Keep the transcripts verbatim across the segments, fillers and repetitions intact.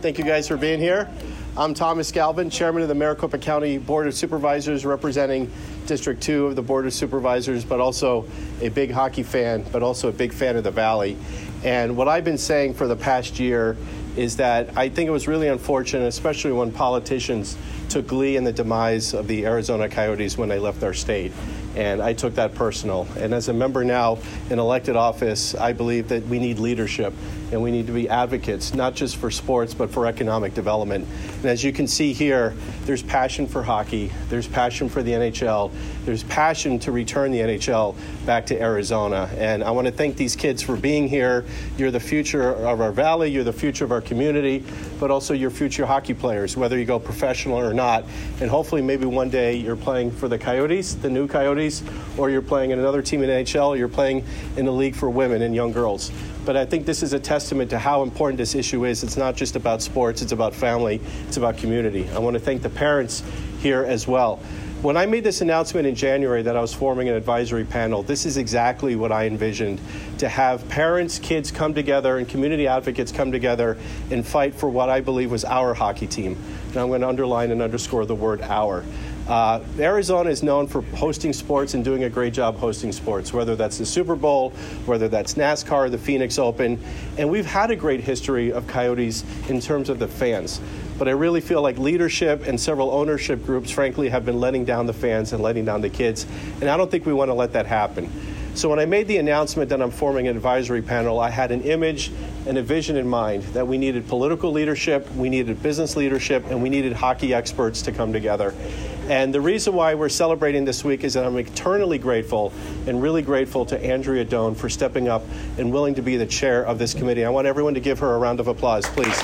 Thank you guys for being here. I'm Thomas Galvin, Chairman of the Maricopa County Board of Supervisors, representing District two of the Board of Supervisors, but also a big hockey fan, but also a big fan of the Valley. And what I've been saying for the past year is that I think it was really unfortunate, especially when politicians took glee in the demise of the Arizona Coyotes when they left our state. And I took that personal. And as a member now in elected office, I believe that we need leadership and we need to be advocates, not just for sports, but for economic development. And as you can see here, there's passion for hockey, there's passion for the N H L, there's passion to return the N H L back to Arizona. And I want to thank these kids for being here. You're the future of our valley, you're the future of our community, but also your future hockey players, whether you go professional or not. And hopefully maybe one day you're playing for the Coyotes, the new Coyotes, or you're playing in another team in the N H L, or you're playing in the league for women and young girls. But I think this is a testament to how important this issue is. It's not just about sports, it's about family, it's about community. I want to thank the parents here as well. When I made this announcement in January that I was forming an advisory panel, this is exactly what I envisioned, to have parents, kids come together and community advocates come together and fight for what I believe was our hockey team. And I'm going to underline and underscore the word our. Uh, Arizona is known for hosting sports and doing a great job hosting sports, whether that's the Super Bowl, whether that's NASCAR, the Phoenix Open. And we've had a great history of Coyotes in terms of the fans. But I really feel like leadership and several ownership groups, frankly, have been letting down the fans and letting down the kids. And I don't think we want to let that happen. So when I made the announcement that I'm forming an advisory panel, I had an image and a vision in mind that we needed political leadership, we needed business leadership, and we needed hockey experts to come together. And the reason why we're celebrating this week is that I'm eternally grateful and really grateful to Andrea Doan for stepping up and willing to be the chair of this committee. I want everyone to give her a round of applause, please.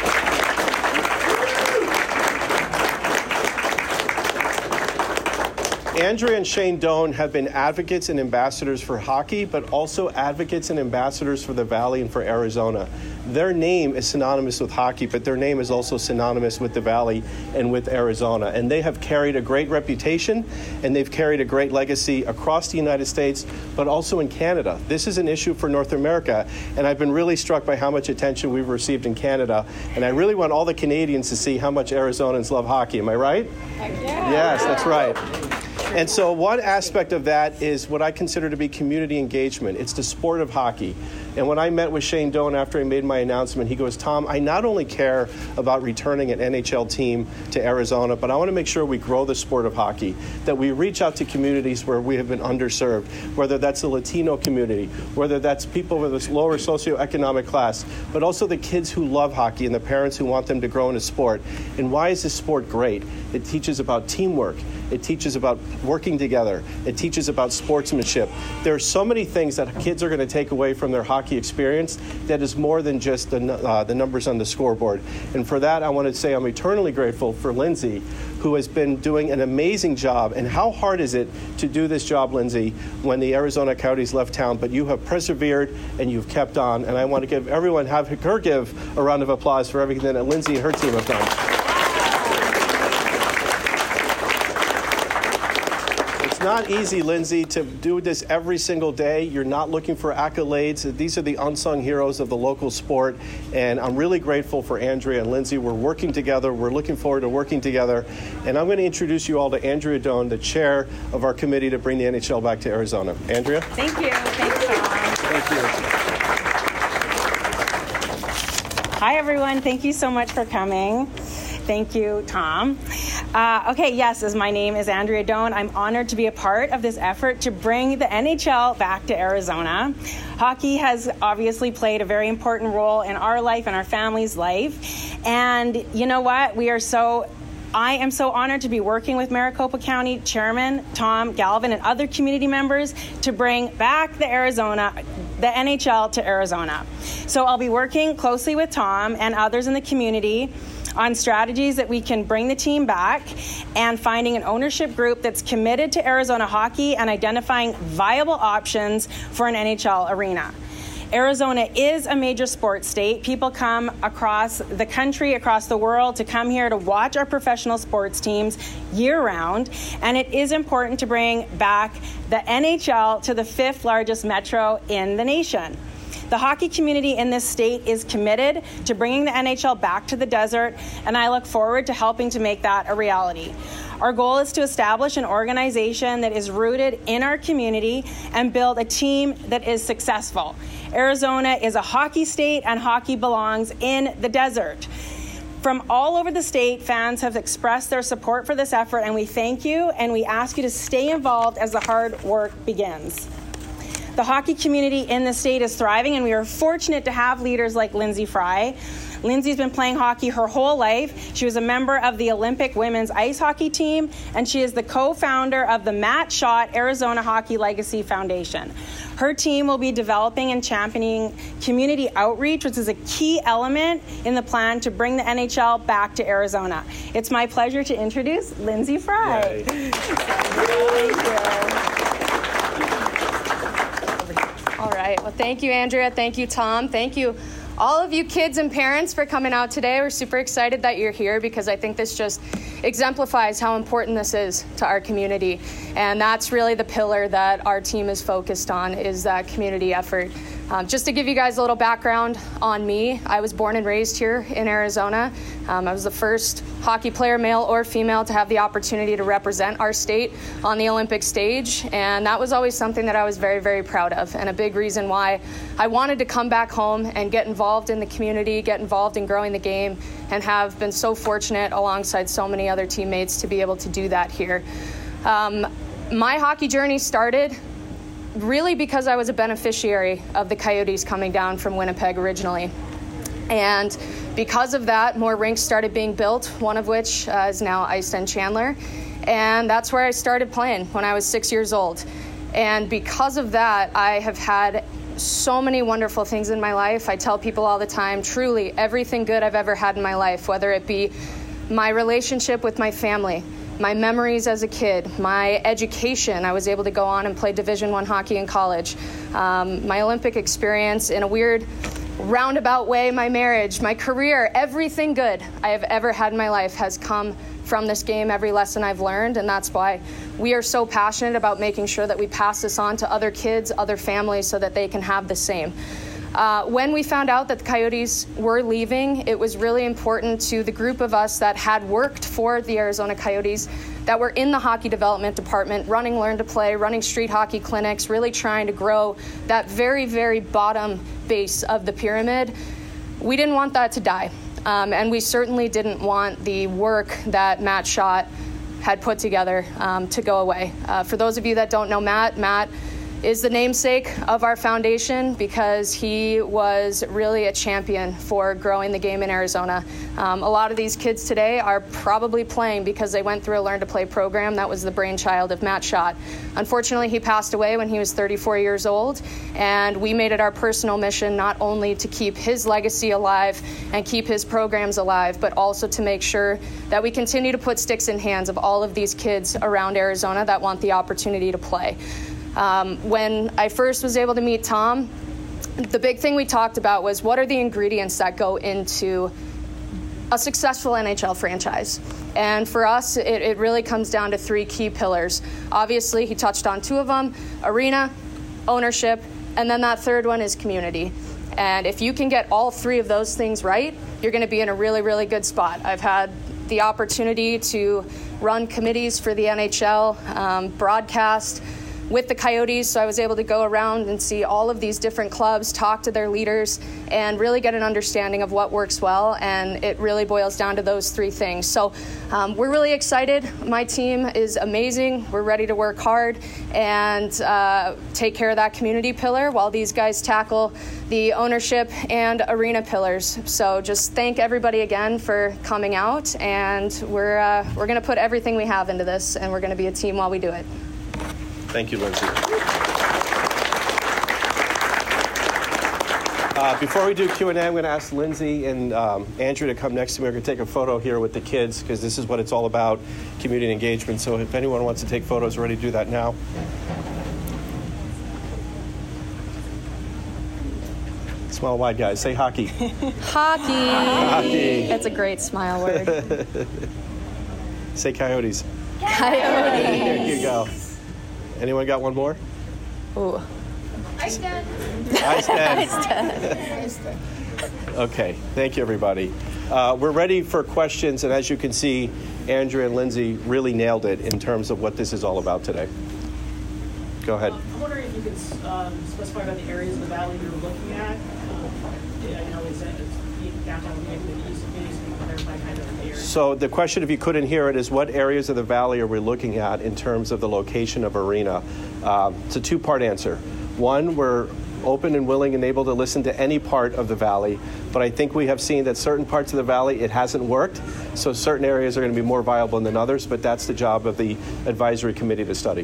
Andrea and Shane Doan have been advocates and ambassadors for hockey, but also advocates and ambassadors for the Valley and for Arizona. Their name is synonymous with hockey, but their name is also synonymous with the Valley and with Arizona. And they have carried a great reputation, and they've carried a great legacy across the United States, but also in Canada. This is an issue for North America, and I've been really struck by how much attention we've received in Canada. And I really want all the Canadians to see how much Arizonans love hockey. Am I right? Heck yeah. Yes, that's right. And so one aspect of that is what I consider to be community engagement. It's the sport of hockey. And when I met with Shane Doan after I made my announcement, he goes, Tom, I not only care about returning an N H L team to Arizona, but I want to make sure we grow the sport of hockey, that we reach out to communities where we have been underserved, whether that's the Latino community, whether that's people with a lower socioeconomic class, but also the kids who love hockey and the parents who want them to grow in a sport. And why is this sport great? It teaches about teamwork. It teaches about working together. It teaches about sportsmanship. There are so many things that kids are going to take away from their hockey experience that is more than just the, uh, the numbers on the scoreboard. And for that, I want to say I'm eternally grateful for Lindsay, who has been doing an amazing job. And how hard is it to do this job, Lindsay, when the Arizona Coyotes left town? But you have persevered and you've kept on. And I want to give everyone, have her give a round of applause for everything that Lindsay and her team have done. It's not easy, Lindsay, to do this every single day. You're not looking for accolades. These are the unsung heroes of the local sport, and I'm really grateful for Andrea and Lindsay. We're working together. We're looking forward to working together, and I'm going to introduce you all to Andrea Doan, the chair of our committee to bring the N H L back to Arizona. Andrea? Thank you. Thanks, Tom. Thank you. Hi, everyone. Thank you so much for coming. Thank you, Tom. Uh, okay, yes, as my name is Andrea Doan, I'm honored to be a part of this effort to bring the N H L back to Arizona. Hockey has obviously played a very important role in our life and our family's life. And you know what? We are so I am so honored to be working with Maricopa County Chairman Tom Galvin and other community members to bring back the Arizona, the N H L to Arizona. So I'll be working closely with Tom and others in the community on strategies that we can bring the team back and finding an ownership group that's committed to Arizona hockey and identifying viable options for an N H L arena. Arizona is a major sports state. People come across the country, across the world to come here to watch our professional sports teams year-round, and it is important to bring back the N H L to the fifth largest metro in the nation. The hockey community in this state is committed to bringing the N H L back to the desert, and I look forward to helping to make that a reality. Our goal is to establish an organization that is rooted in our community and build a team that is successful. Arizona is a hockey state, and hockey belongs in the desert. From all over the state, fans have expressed their support for this effort, and we thank you, and we ask you to stay involved as the hard work begins. The hockey community in the state is thriving, and we are fortunate to have leaders like Lindsay Fry. Lindsay's been playing hockey her whole life. She was a member of the Olympic women's ice hockey team, and she is the co-founder of the Matt Schott Arizona Hockey Legacy Foundation. Her team will be developing and championing community outreach, which is a key element in the plan to bring the N H L back to Arizona. It's my pleasure to introduce Lindsay Fry. Yay. Thank you. All right. Well, thank you, Andrea. Thank you, Tom. Thank you, all of you kids and parents, for coming out today. We're super excited that you're here because I think this just exemplifies how important this is to our community. And that's really the pillar that our team is focused on, is that community effort. Um, just to give you guys a little background on me, I was born and raised here in Arizona. Um, I was the first hockey player, male or female, to have the opportunity to represent our state on the Olympic stage. And that was always something that I was very, very proud of, and a big reason why I wanted to come back home and get involved in the community, get involved in growing the game, and have been so fortunate alongside so many other teammates to be able to do that here. Um, my hockey journey started really because I was a beneficiary of the Coyotes coming down from Winnipeg originally. And because of that, more rinks started being built, one of which uh, is now Ice End Chandler. And that's where I started playing when I was six years old. And because of that, I have had so many wonderful things in my life. I tell people all the time, truly, everything good I've ever had in my life, whether it be my relationship with my family, my memories as a kid, my education. I was able to go on and play Division One hockey in college. Um, my Olympic experience, in a weird roundabout way, my marriage, my career, everything good I have ever had in my life has come from this game, every lesson I've learned, and that's why we are so passionate about making sure that we pass this on to other kids, other families, so that they can have the same. Uh, when we found out that the Coyotes were leaving, it was really important to the group of us that had worked for the Arizona Coyotes, that were in the hockey development department, running Learn to Play, running street hockey clinics, really trying to grow that very, very bottom base of the pyramid. We didn't want that to die. Um, and we certainly didn't want the work that Matt Schott had put together um, to go away. Uh, for those of you that don't know Matt, Matt is the namesake of our foundation because he was really a champion for growing the game in Arizona. Um, a lot of these kids today are probably playing because they went through a Learn to Play program that was the brainchild of Matt Schott. Unfortunately, he passed away when he was thirty-four years old, and we made it our personal mission not only to keep his legacy alive and keep his programs alive, but also to make sure that we continue to put sticks in hands of all of these kids around Arizona that want the opportunity to play. Um, when I first was able to meet Tom, the big thing we talked about was what are the ingredients that go into a successful N H L franchise. And for us, it, it really comes down to three key pillars. Obviously, he touched on two of them: arena, ownership, and then that third one is community. And if you can get all three of those things right, you're going to be in a really, really good spot. I've had the opportunity to run committees for the N H L, um, broadcast with the Coyotes, so I was able to go around and see all of these different clubs, talk to their leaders, and really get an understanding of what works well, and it really boils down to those three things. So um, we're really excited. My team is amazing. We're ready to work hard and uh, take care of that community pillar while these guys tackle the ownership and arena pillars. So just thank everybody again for coming out, and we're, uh, we're going to put everything we have into this, and we're going to be a team while we do it. Thank you, Lindsay. Uh, before we do Q and A, I'm going to ask Lindsay and um, Andrew to come next to me. We're going to take a photo here with the kids because this is what it's all about, community engagement. So if anyone wants to take photos, we're ready to do that now. Smile wide, guys. Say hockey. Hockey. Hockey. That's a great smile word. Say Coyotes. Coyotes. There you go. Anyone got one more? Ooh. I stand. I stand. Okay, thank you, everybody. Uh, we're ready for questions, and as you can see, Andrea and Lindsay really nailed it in terms of what this is all about today. Go ahead. Um, I'm wondering if you could um, specify about the areas of the valley you're looking at. Um, yeah, you know, is that downtown, maybe the east, maybe you can clarify kind of the area. So the question, if you couldn't hear it, is what areas of the valley are we looking at in terms of the location of Arena? Um, it's a two-part answer. One, we're open and willing and able to listen to any part of the valley, but I think we have seen that certain parts of the valley it hasn't worked, so certain areas are going to be more viable than others, but that's the job of the advisory committee to study.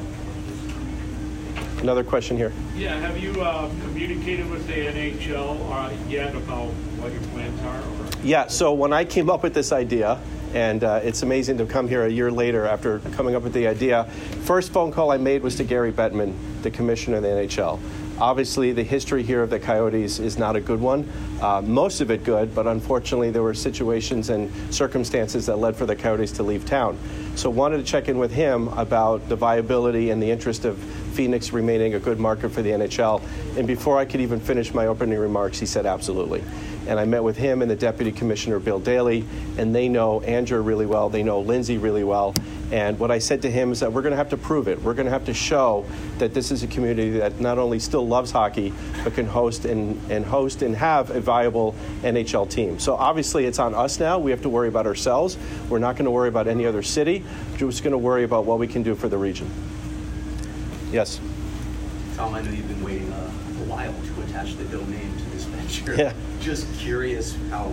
Another question here. Yeah, have you uh, communicated with the N H L uh, yet about what your plans are? Or? Yeah, so when I came up with this idea, and uh, it's amazing to come here a year later after coming up with the idea, first phone call I made was to Gary Bettman, the commissioner of the N H L. Obviously, the history here of the Coyotes is not a good one. Uh, most of it good, but unfortunately there were situations and circumstances that led for the Coyotes to leave town. So wanted to check in with him about the viability and the interest of Phoenix remaining a good market for the N H L. And before I could even finish my opening remarks, he said absolutely. And I met with him and the Deputy Commissioner, Bill Daly, and they know Andrea really well. They know Lindsay really well. And what I said to him is that we're going to have to prove it. We're going to have to show that this is a community that not only still loves hockey, but can host and, and host and have a viable N H L team. So obviously it's on us now. We have to worry about ourselves. We're not going to worry about any other city. We're just going to worry about what we can do for the region. Yes? Tom, I know you've been waiting a, a while to attach the domain to this venture. Yeah. Just curious how,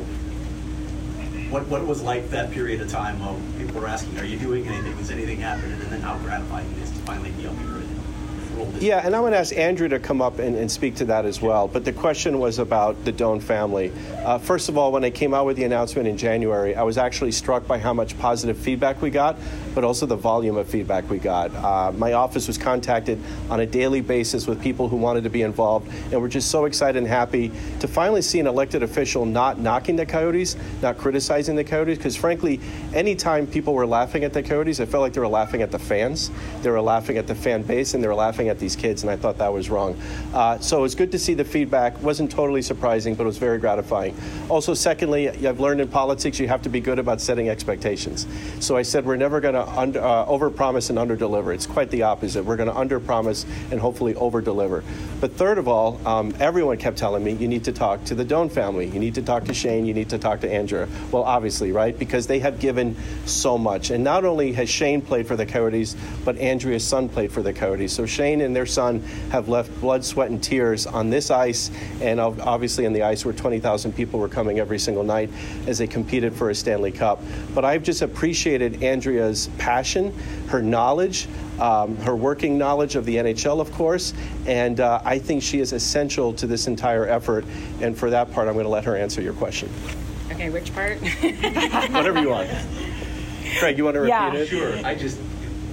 what what it was like that period of time while people were asking, are you doing anything? Is anything happening? And then how gratifying it is to finally be up here and roll this. Yeah, and I'm going to ask Andrea to come up and, and speak to that as well. But the question was about the Doan family. Uh, first of all, when I came out with the announcement in January, I was actually struck by how much positive feedback we got, but also the volume of feedback we got. Uh, my office was contacted on a daily basis with people who wanted to be involved, and we're just so excited and happy to finally see an elected official not knocking the Coyotes, not criticizing the Coyotes, because frankly, anytime people were laughing at the Coyotes, I felt like they were laughing at the fans, they were laughing at the fan base, and they were laughing at these kids, and I thought that was wrong. Uh, so it was good to see the feedback. It wasn't totally surprising, but it was very gratifying. Also, secondly, I've learned in politics you have to be good about setting expectations. So I said we're never going to under, uh, overpromise and underdeliver. It's quite the opposite. We're going to underpromise and hopefully overdeliver. But third of all, um, everyone kept telling me you need to talk to the Doan family. You need to talk to Shane. You need to talk to Andrea. Well, obviously, right? Because they have given so much. And not only has Shane played for the Coyotes, but Andrea's son played for the Coyotes. So Shane and their son have left blood, sweat, and tears on this ice, and obviously on the ice where twenty thousand people were coming every single night as they competed for a Stanley Cup. But I've just appreciated Andrea's passion, her knowledge, um, her working knowledge of the N H L, of course, and uh, I think she is essential to this entire effort. And for that part, I'm going to let her answer your question. Okay, which part? Whatever you want. Craig, you want to repeat Yeah. it? Sure. I just,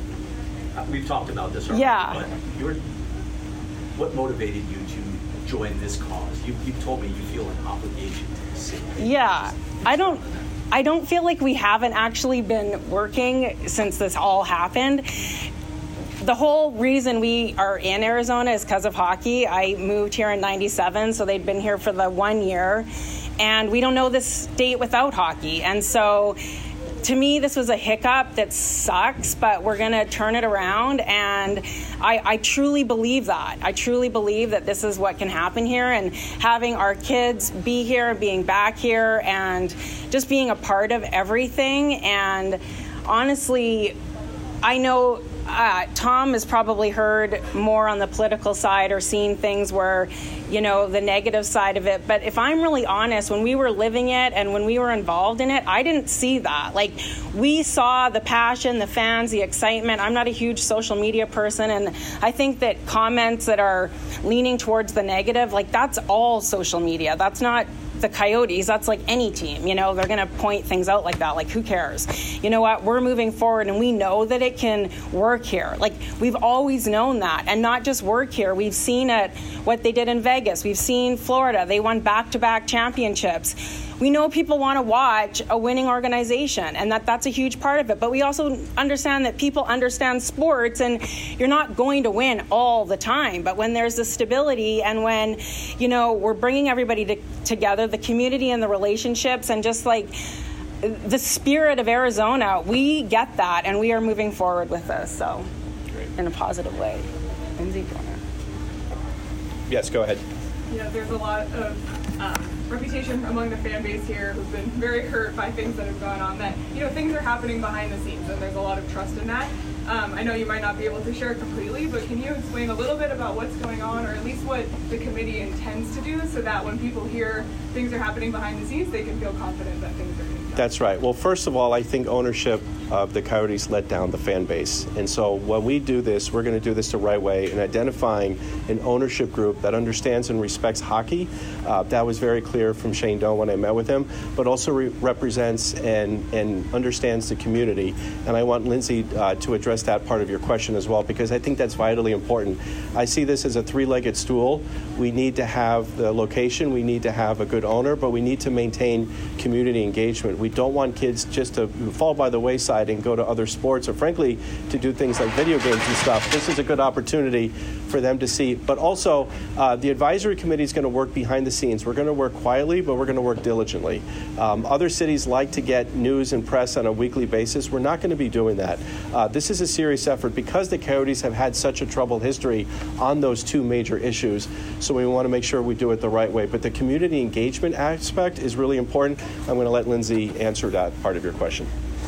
we've talked about this already, Yeah. but you're, what motivated you to join this cause? You, you told me you feel an obligation to the city. Yeah, I don't. I don't feel like we haven't actually been working since this all happened. The whole reason we are in Arizona is because of hockey. I moved here in ninety-seven, so they'd been here for the one year, and we don't know this state without hockey. And so, to me, this was a hiccup that sucks, but we're going to turn it around, and I, I truly believe that. I truly believe that this is what can happen here, and having our kids be here, being back here, and just being a part of everything. And honestly, I know uh, Tom has probably heard more on the political side or seen things where, you know, the negative side of it. But if I'm really honest, when we were living it and when we were involved in it, I didn't see that. Like, we saw the passion, the fans, the excitement. I'm not a huge social media person, and I think that comments that are leaning towards the negative, like, that's all social media. That's not the Coyotes, that's like any team, you know, they're going to point things out like that. Like, who cares? You know what? We're moving forward, and we know that it can work here. Like, we've always known that, and not just work here. We've seen it, what they did in Vegas. We've seen Florida. They won back-to-back championships. We know people want to watch a winning organization, and that that's a huge part of it. But we also understand that people understand sports, and you're not going to win all the time. But when there's the stability, and when, you know, we're bringing everybody to, together, the community and the relationships, and just like the spirit of Arizona, we get that, and we are moving forward with this. So, Great. In a positive way. Lindsay, yes, go ahead. Yeah, there's a lot of um, reputation among the fan base here who've been very hurt by things that have gone on, that, you know, things are happening behind the scenes, and there's a lot of trust in that. Um, I know you might not be able to share it completely, but can you explain a little bit about what's going on, or at least what the committee intends to do, so that when people hear things are happening behind the scenes, they can feel confident that things are going to be done? That's right. Well, first of all, I think ownership of the Coyotes let down the fan base. And so when we do this, we're going to do this the right way in identifying an ownership group that understands and respects hockey. Uh, that was very clear from Shane Doan when I met with him, but also re- represents and, and understands the community. And I want Lindsay uh, to address that part of your question as well, because I think that's vitally important. I see this as a three-legged stool. We need to have the location, we need to have a good owner, but we need to maintain community engagement. We don't want kids just to fall by the wayside and go to other sports, or frankly, to do things like video games and stuff. This is a good opportunity for them to see. But also, uh, the advisory committee is going to work behind the scenes. We're going to work quietly, but we're going to work diligently. Um, other cities like to get news and press on a weekly basis. We're not going to be doing that. Uh, this is a serious effort because the Coyotes have had such a troubled history on those two major issues. So we want to make sure we do it the right way. But the community engagement aspect is really important. I'm going to let Lindsay answer that part of your question.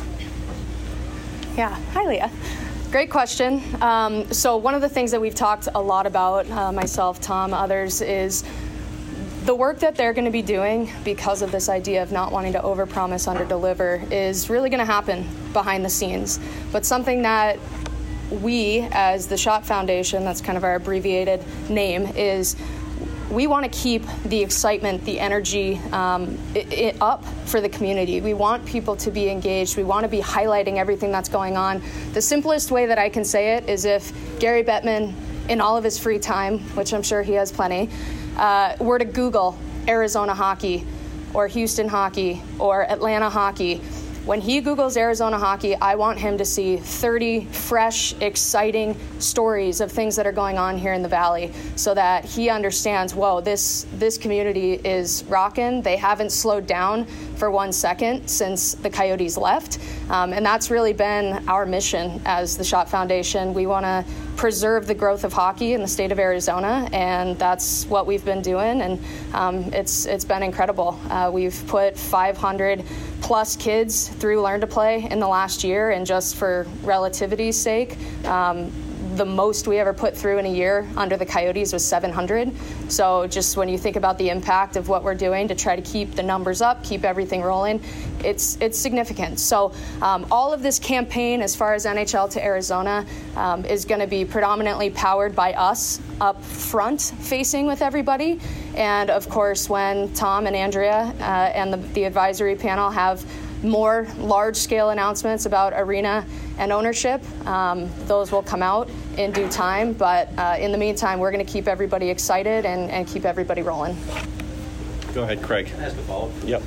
Yeah. Hi, Leah. Great question. Um, so one of the things that we've talked a lot about, uh, myself, Tom, others, is the work that they're going to be doing because of this idea of not wanting to overpromise, underdeliver, is really going to happen behind the scenes. But something that we, as the Schott Foundation, that's kind of our abbreviated name, is we want to keep the excitement, the energy um, it, it up for the community. We want people to be engaged. We want to be highlighting everything that's going on. The simplest way that I can say it is if Gary Bettman, in all of his free time, which I'm sure he has plenty, uh, were to Google Arizona hockey or Houston hockey or Atlanta hockey. When he Googles Arizona hockey, I want him to see thirty fresh, exciting stories of things that are going on here in the Valley, so that he understands, whoa, this this community is rocking. They haven't slowed down for one second since the Coyotes left. Um, and that's really been our mission as the Schott Foundation. We want to preserve the growth of hockey in the state of Arizona, and that's what we've been doing, and um, it's it's been incredible. Uh, we've put five hundred plus kids through Learn to Play in the last year, and just for relativity's sake, um, the most we ever put through in a year under the Coyotes was seven hundred. So just when you think about the impact of what we're doing to try to keep the numbers up, keep everything rolling, it's it's significant. So um, all of this campaign, as far as N H L to Arizona, um, is going to be predominantly powered by us up front, facing with everybody. And of course, when Tom and Andrea uh, and the, the advisory panel have more large-scale announcements about arena and ownership, um, those will come out in due time. But uh, in the meantime, we're going to keep everybody excited and, and keep everybody rolling. Go ahead, Craig. Can I ask a follow-up? Yep.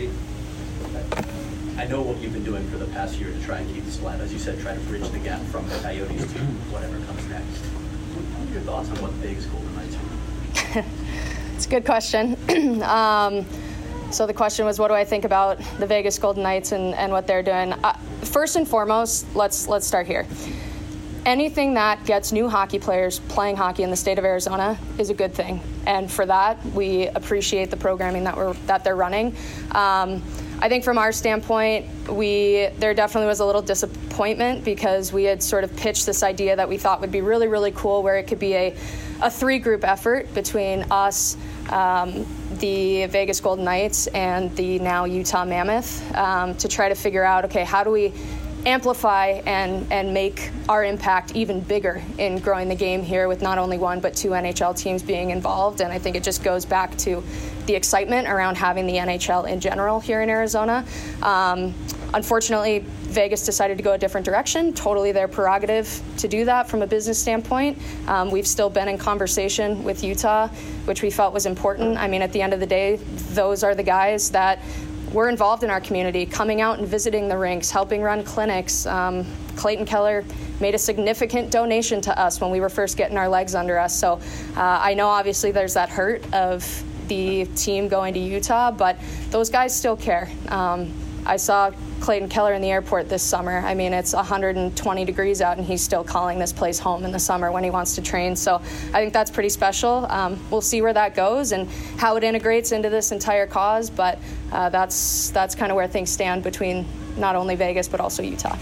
I know what you've been doing for the past year to try and keep this flat. As you said, try to bridge the gap from the Coyotes to whatever comes next. What are your thoughts on what the Vegas Golden Knights are? It's a good question. um, So the question was, what do I think about the Vegas Golden Knights and, and what they're doing? Uh, first and foremost, let's let's start here. Anything that gets new hockey players playing hockey in the state of Arizona is a good thing, and for that, we appreciate the programming that we're that they're running. Um, I think from our standpoint, we there definitely was a little disappointment because we had sort of pitched this idea that we thought would be really, really cool, where it could be a, a three-group effort between us, um, the Vegas Golden Knights, and the now Utah Mammoth, um, to try to figure out, okay, how do we amplify and, and make our impact even bigger in growing the game here with not only one but two N H L teams being involved. And I think it just goes back to the excitement around having the N H L in general here in Arizona. Um, unfortunately, Vegas decided to go a different direction. Totally their prerogative to do that from a business standpoint. Um, we've still been in conversation with Utah, which we felt was important. I mean, at the end of the day, those are the guys that were involved in our community, coming out and visiting the rinks, helping run clinics. Um, Clayton Keller made a significant donation to us when we were first getting our legs under us. So uh, I know obviously there's that hurt of the team going to Utah, but those guys still care. Um, I saw Clayton Keller in the airport this summer. I mean, it's one hundred twenty degrees out, and he's still calling this place home in the summer when he wants to train. So I think that's pretty special. Um, we'll see where that goes and how it integrates into this entire cause, but uh, that's that's kind of where things stand between not only Vegas but also Utah.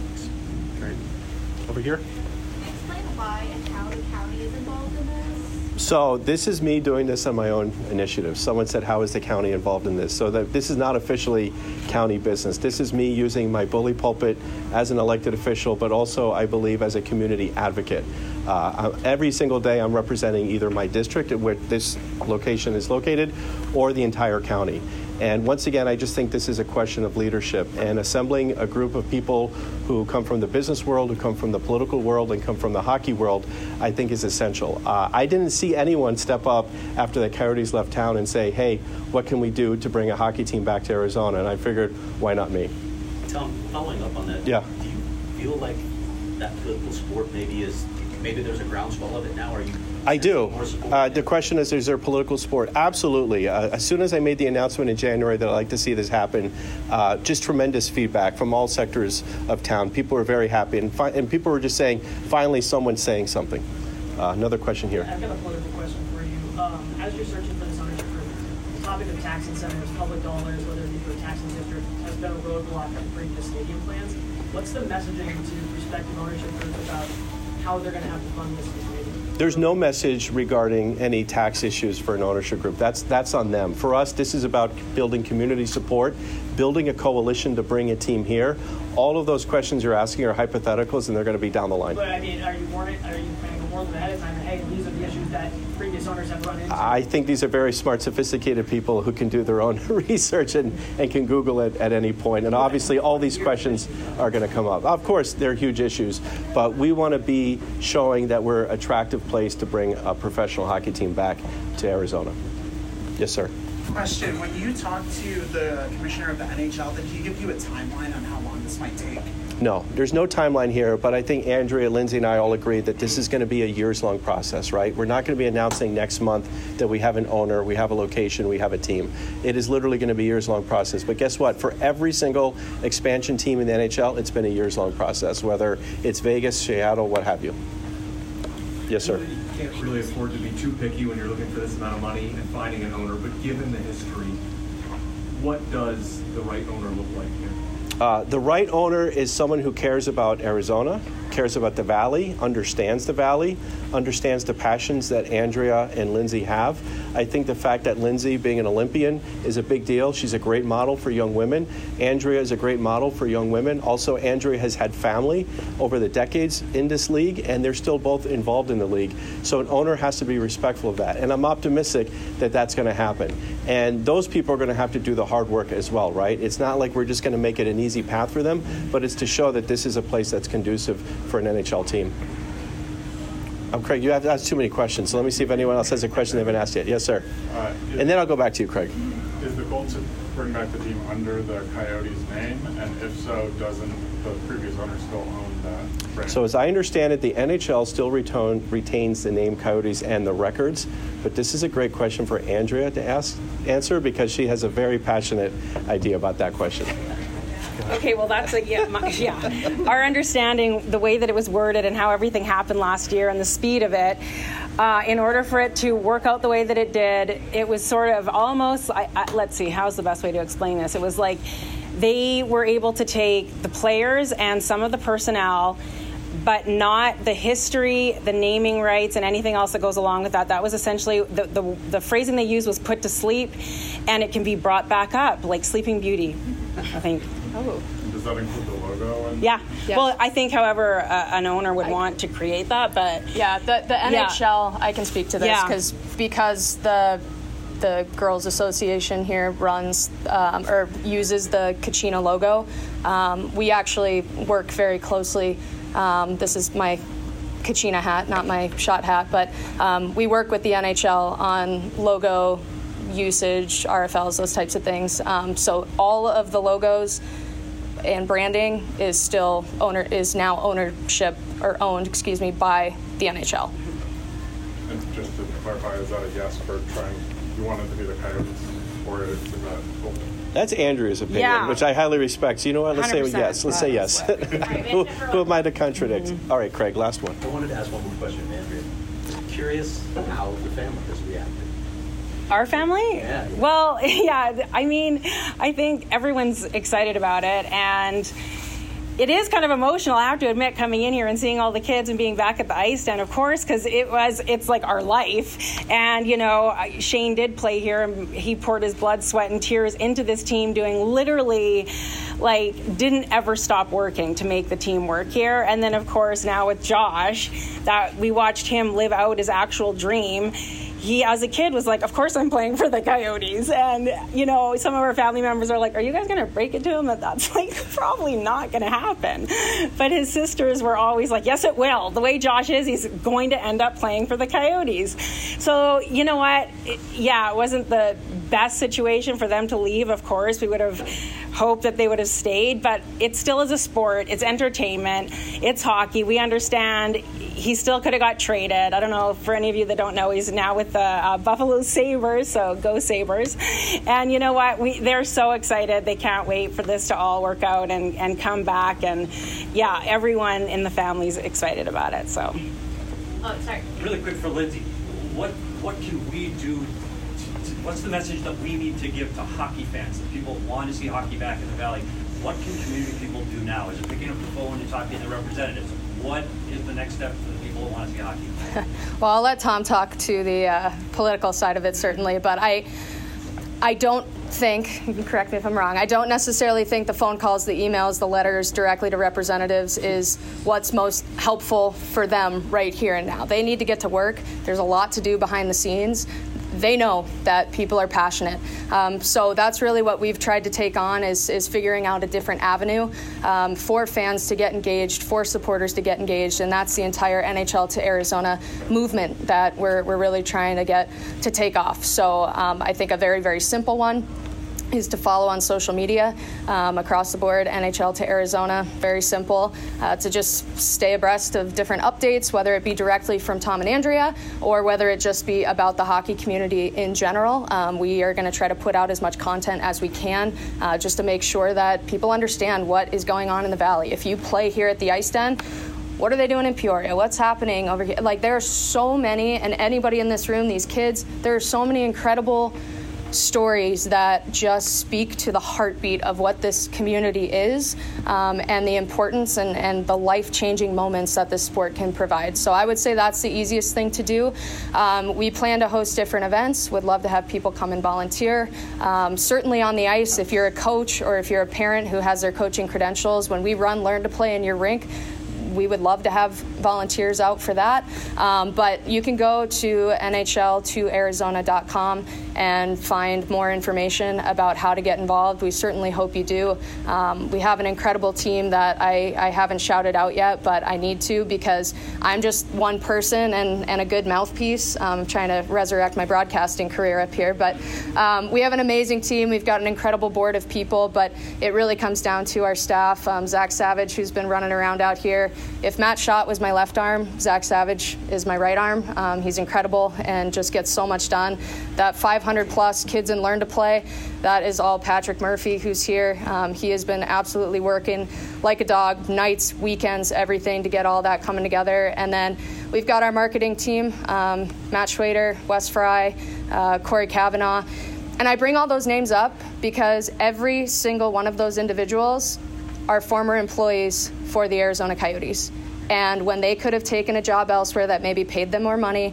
Great. Over here. Explain why and how the county is involved in this. So this is me doing this on my own initiative. Someone said, how is the county involved in this? So that this is not officially county business. This is me using my bully pulpit as an elected official, but also, I believe, as a community advocate. Uh, every single day I'm representing either my district, where this location is located, or the entire county. And once again, I just think this is a question of leadership, and assembling a group of people who come from the business world, who come from the political world, and come from the hockey world, I think is essential. Uh, I didn't see anyone step up after the Coyotes left town and say, hey, what can we do to bring a hockey team back to Arizona? And I figured, why not me? Tom, following up on that, Yeah. do you feel like that political sport maybe is, maybe there's a groundswell of it now? Are you I do. more support? Uh, the question is, is there political support? Absolutely. Uh, as soon as I made the announcement in January that I'd like to see this happen, uh, just tremendous feedback from all sectors of town. People were very happy, and, fi- and people were just saying, finally someone's saying something. Uh, another question here. I've got a political question for you. Um, as you're searching for this ownership group, the topic of tax incentives, public dollars, whether it be for a taxing district, has been a roadblock in previous stadium plans. What's the messaging to prospective ownership groups about how they're going to have to fund this stadium? There's no message regarding any tax issues for an ownership group. That's that's on them. For us, this is about building community support, building a coalition to bring a team here. All of those questions you're asking are hypotheticals, and they're going to be down the line. But I mean, are you warning? Are you planning to warn them ahead of time that, hey, these are the issues that previous owners have run into? I think these are very smart, sophisticated people who can do their own research and, and can Google it at any point. And obviously, all these questions are going to come up. Of course, they're huge issues, but we want to be showing that we're an attractive place to bring a professional hockey team back to Arizona. Yes, sir. Question. When you talked to the commissioner of the N H L, did he give you a timeline on how long this might take? No, there's no timeline here, but I think Andrea, Lindsay, and I all agree that this is going to be a years-long process, right? We're not going to be announcing next month that we have an owner, we have a location, we have a team. It is literally going to be a years-long process. But guess what? For every single expansion team in the N H L, it's been a years-long process, whether it's Vegas, Seattle, what have you. Yes, sir. You can't really afford to be too picky when you're looking for this amount of money and finding an owner, but given the history, what does the right owner look like here? Uh, the right owner is someone who cares about Arizona, cares about the Valley, understands the Valley, understands the passions that Andrea and Lindsay have. I think the fact that Lindsay, being an Olympian, is a big deal. She's a great model for young women. Andrea is a great model for young women. Also, Andrea has had family over the decades in this league, and they're still both involved in the league. So an owner has to be respectful of that. And I'm optimistic that that's going to happen. And those people are going to have to do the hard work as well, right? It's not like we're just going to make it an easy path for them, but it's to show that this is a place that's conducive for an N H L team. Um, Craig, you have asked too many questions, so let me see if anyone else has a question they haven't asked yet. Yes, sir. Uh, is, and then I'll go back to you, Craig. Is the goal to bring back the team under the Coyotes name? And if so, doesn't the previous owner still own that brand? So as I understand it, the N H L still retain, retains the name Coyotes and the records, but this is a great question for Andrea to ask, answer, because she has a very passionate idea about that question. Okay, well, that's a, yeah, my, yeah. Our understanding, the way that it was worded and how everything happened last year and the speed of it, uh, in order for it to work out the way that it did, it was sort of almost, I, I, let's see, how's the best way to explain this? It was like they were able to take the players and some of the personnel, but not the history, the naming rights, and anything else that goes along with that. That was essentially, the, the, the phrasing they used was put to sleep, and it can be brought back up, like Sleeping Beauty, I think. Oh. Does that include the logo? And yeah. yeah. Well, I think, however, uh, an owner would I, want to create that, but yeah, the the N H L, yeah. I can speak to this because yeah. because the the Girls Association here runs um, or uses the Kachina logo. Um, we actually work very closely. Um, this is my Kachina hat, not my shot hat, but um, we work with the N H L on logo usage, R F Ls, those types of things. Um, so all of the logos and branding is still owner is now ownership or owned, excuse me, by the N H L. And just to clarify, is that a yes for trying? You want it to be the Coyotes, or is that open? That's Andrea's opinion, Yeah. which I highly respect. So you know what? Let's say one hundred yes. percent. Let's say yes. who, who am I to contradict? Mm-hmm. All right, Craig, last one. I wanted to ask one more question, Andrea. Curious how the family has reacted. Our family? Yeah, yeah. Well, yeah, I mean, I think everyone's excited about it, and it is kind of emotional, I have to admit, coming in here and seeing all the kids and being back at the ice stand, of course, because it was, it's like our life. And, you know, Shane did play here, and he poured his blood, sweat, and tears into this team, doing literally, like, didn't ever stop working to make the team work here. And then, of course, now with Josh, that we watched him live out his actual dream. He, as a kid, was like, of course I'm playing for the Coyotes. And, you know, some of our family members are like, are you guys going to break it to him that that's, like, probably not going to happen? But his sisters were always like, yes, it will. The way Josh is, he's going to end up playing for the Coyotes. So, you know what? It, yeah, it wasn't the best situation for them to leave, of course. We would have hoped that they would have stayed. But it still is a sport. It's entertainment. It's hockey. We understand. He still could have got traded. I don't know, for any of you that don't know, he's now with the uh, Buffalo Sabres, so go Sabres. And you know what? We They're so excited. They can't wait for this to all work out and, and come back. And, yeah, everyone in the family's excited about it. So, Oh, sorry. Really quick for Lindsay, what what can we do? To, to, what's the message that we need to give to hockey fans, that people want to see hockey back in the Valley? What can community people do now? Is it picking up the phone and talking to representatives? What is the next step for the people who want to see hockey? Well, I'll let Tom talk to the uh, political side of it, certainly, but I, I don't think, you can correct me if I'm wrong, I don't necessarily think the phone calls, the emails, the letters directly to representatives is what's most helpful for them right here and now. They need to get to work. There's a lot to do behind the scenes. They know that people are passionate. Um, so that's really what we've tried to take on is, is figuring out a different avenue um, for fans to get engaged, for supporters to get engaged, and that's the entire N H L to Arizona movement that we're, we're really trying to get to take off. So um, I think a very, very simple one is to follow on social media um, across the board, N H L to Arizona, very simple, uh, to just stay abreast of different updates, whether it be directly from Tom and Andrea or whether it just be about the hockey community in general. Um, we are going to try to put out as much content as we can uh, just to make sure that people understand what is going on in the Valley. If you play here at the Ice Den, what are they doing in Peoria? What's happening over here? Like, there are so many, and anybody in this room, these kids, there are so many incredible stories that just speak to the heartbeat of what this community is um, and the importance and, and the life-changing moments that this sport can provide. So I would say that's the easiest thing to do. Um, we plan to host different events. Would love to have people come and volunteer. Um, certainly on the ice, if you're a coach or if you're a parent who has their coaching credentials, when we run Learn to Play in your rink, we would love to have volunteers out for that. Um, but you can go to N H L to Arizona dot com and find more information about how to get involved. We certainly hope you do. Um, we have an incredible team that I, I haven't shouted out yet, but I need to because I'm just one person and, and a good mouthpiece. I'm trying to resurrect my broadcasting career up here. But um, we have an amazing team. We've got an incredible board of people, but it really comes down to our staff. Um, Zach Savage, who's been running around out here. If Matt Schott was my left arm, Zach Savage is my right arm. Um, he's incredible and just gets so much done. That five hundred plus kids in Learn to Play, that is all Patrick Murphy, who's here. Um, he has been absolutely working like a dog, nights, weekends, everything to get all that coming together. And then we've got our marketing team, um, Matt Schwader, Wes Fry, uh, Corey Kavanaugh. And I bring all those names up because every single one of those individuals are former employees for the Arizona Coyotes. And when they could have taken a job elsewhere that maybe paid them more money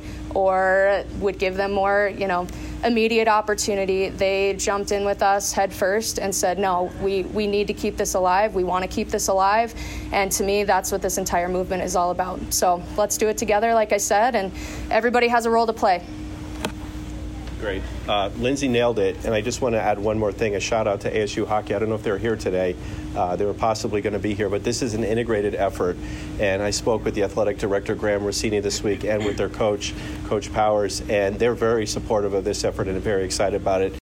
or would give them more, you know, immediate opportunity, they jumped in with us head first and said, no, we, we need to keep this alive. We want to keep this alive. And to me, that's what this entire movement is all about. So let's do it together, like I said, and everybody has a role to play. Great. Uh, Lindsay nailed it, and I just want to add one more thing, a shout out to A S U Hockey. I don't know if they're here today. Uh, they were possibly going to be here, but this is an integrated effort, and I spoke with the athletic director, Graham Rossini, this week, and with their coach, Coach Powers, and they're very supportive of this effort and very excited about it.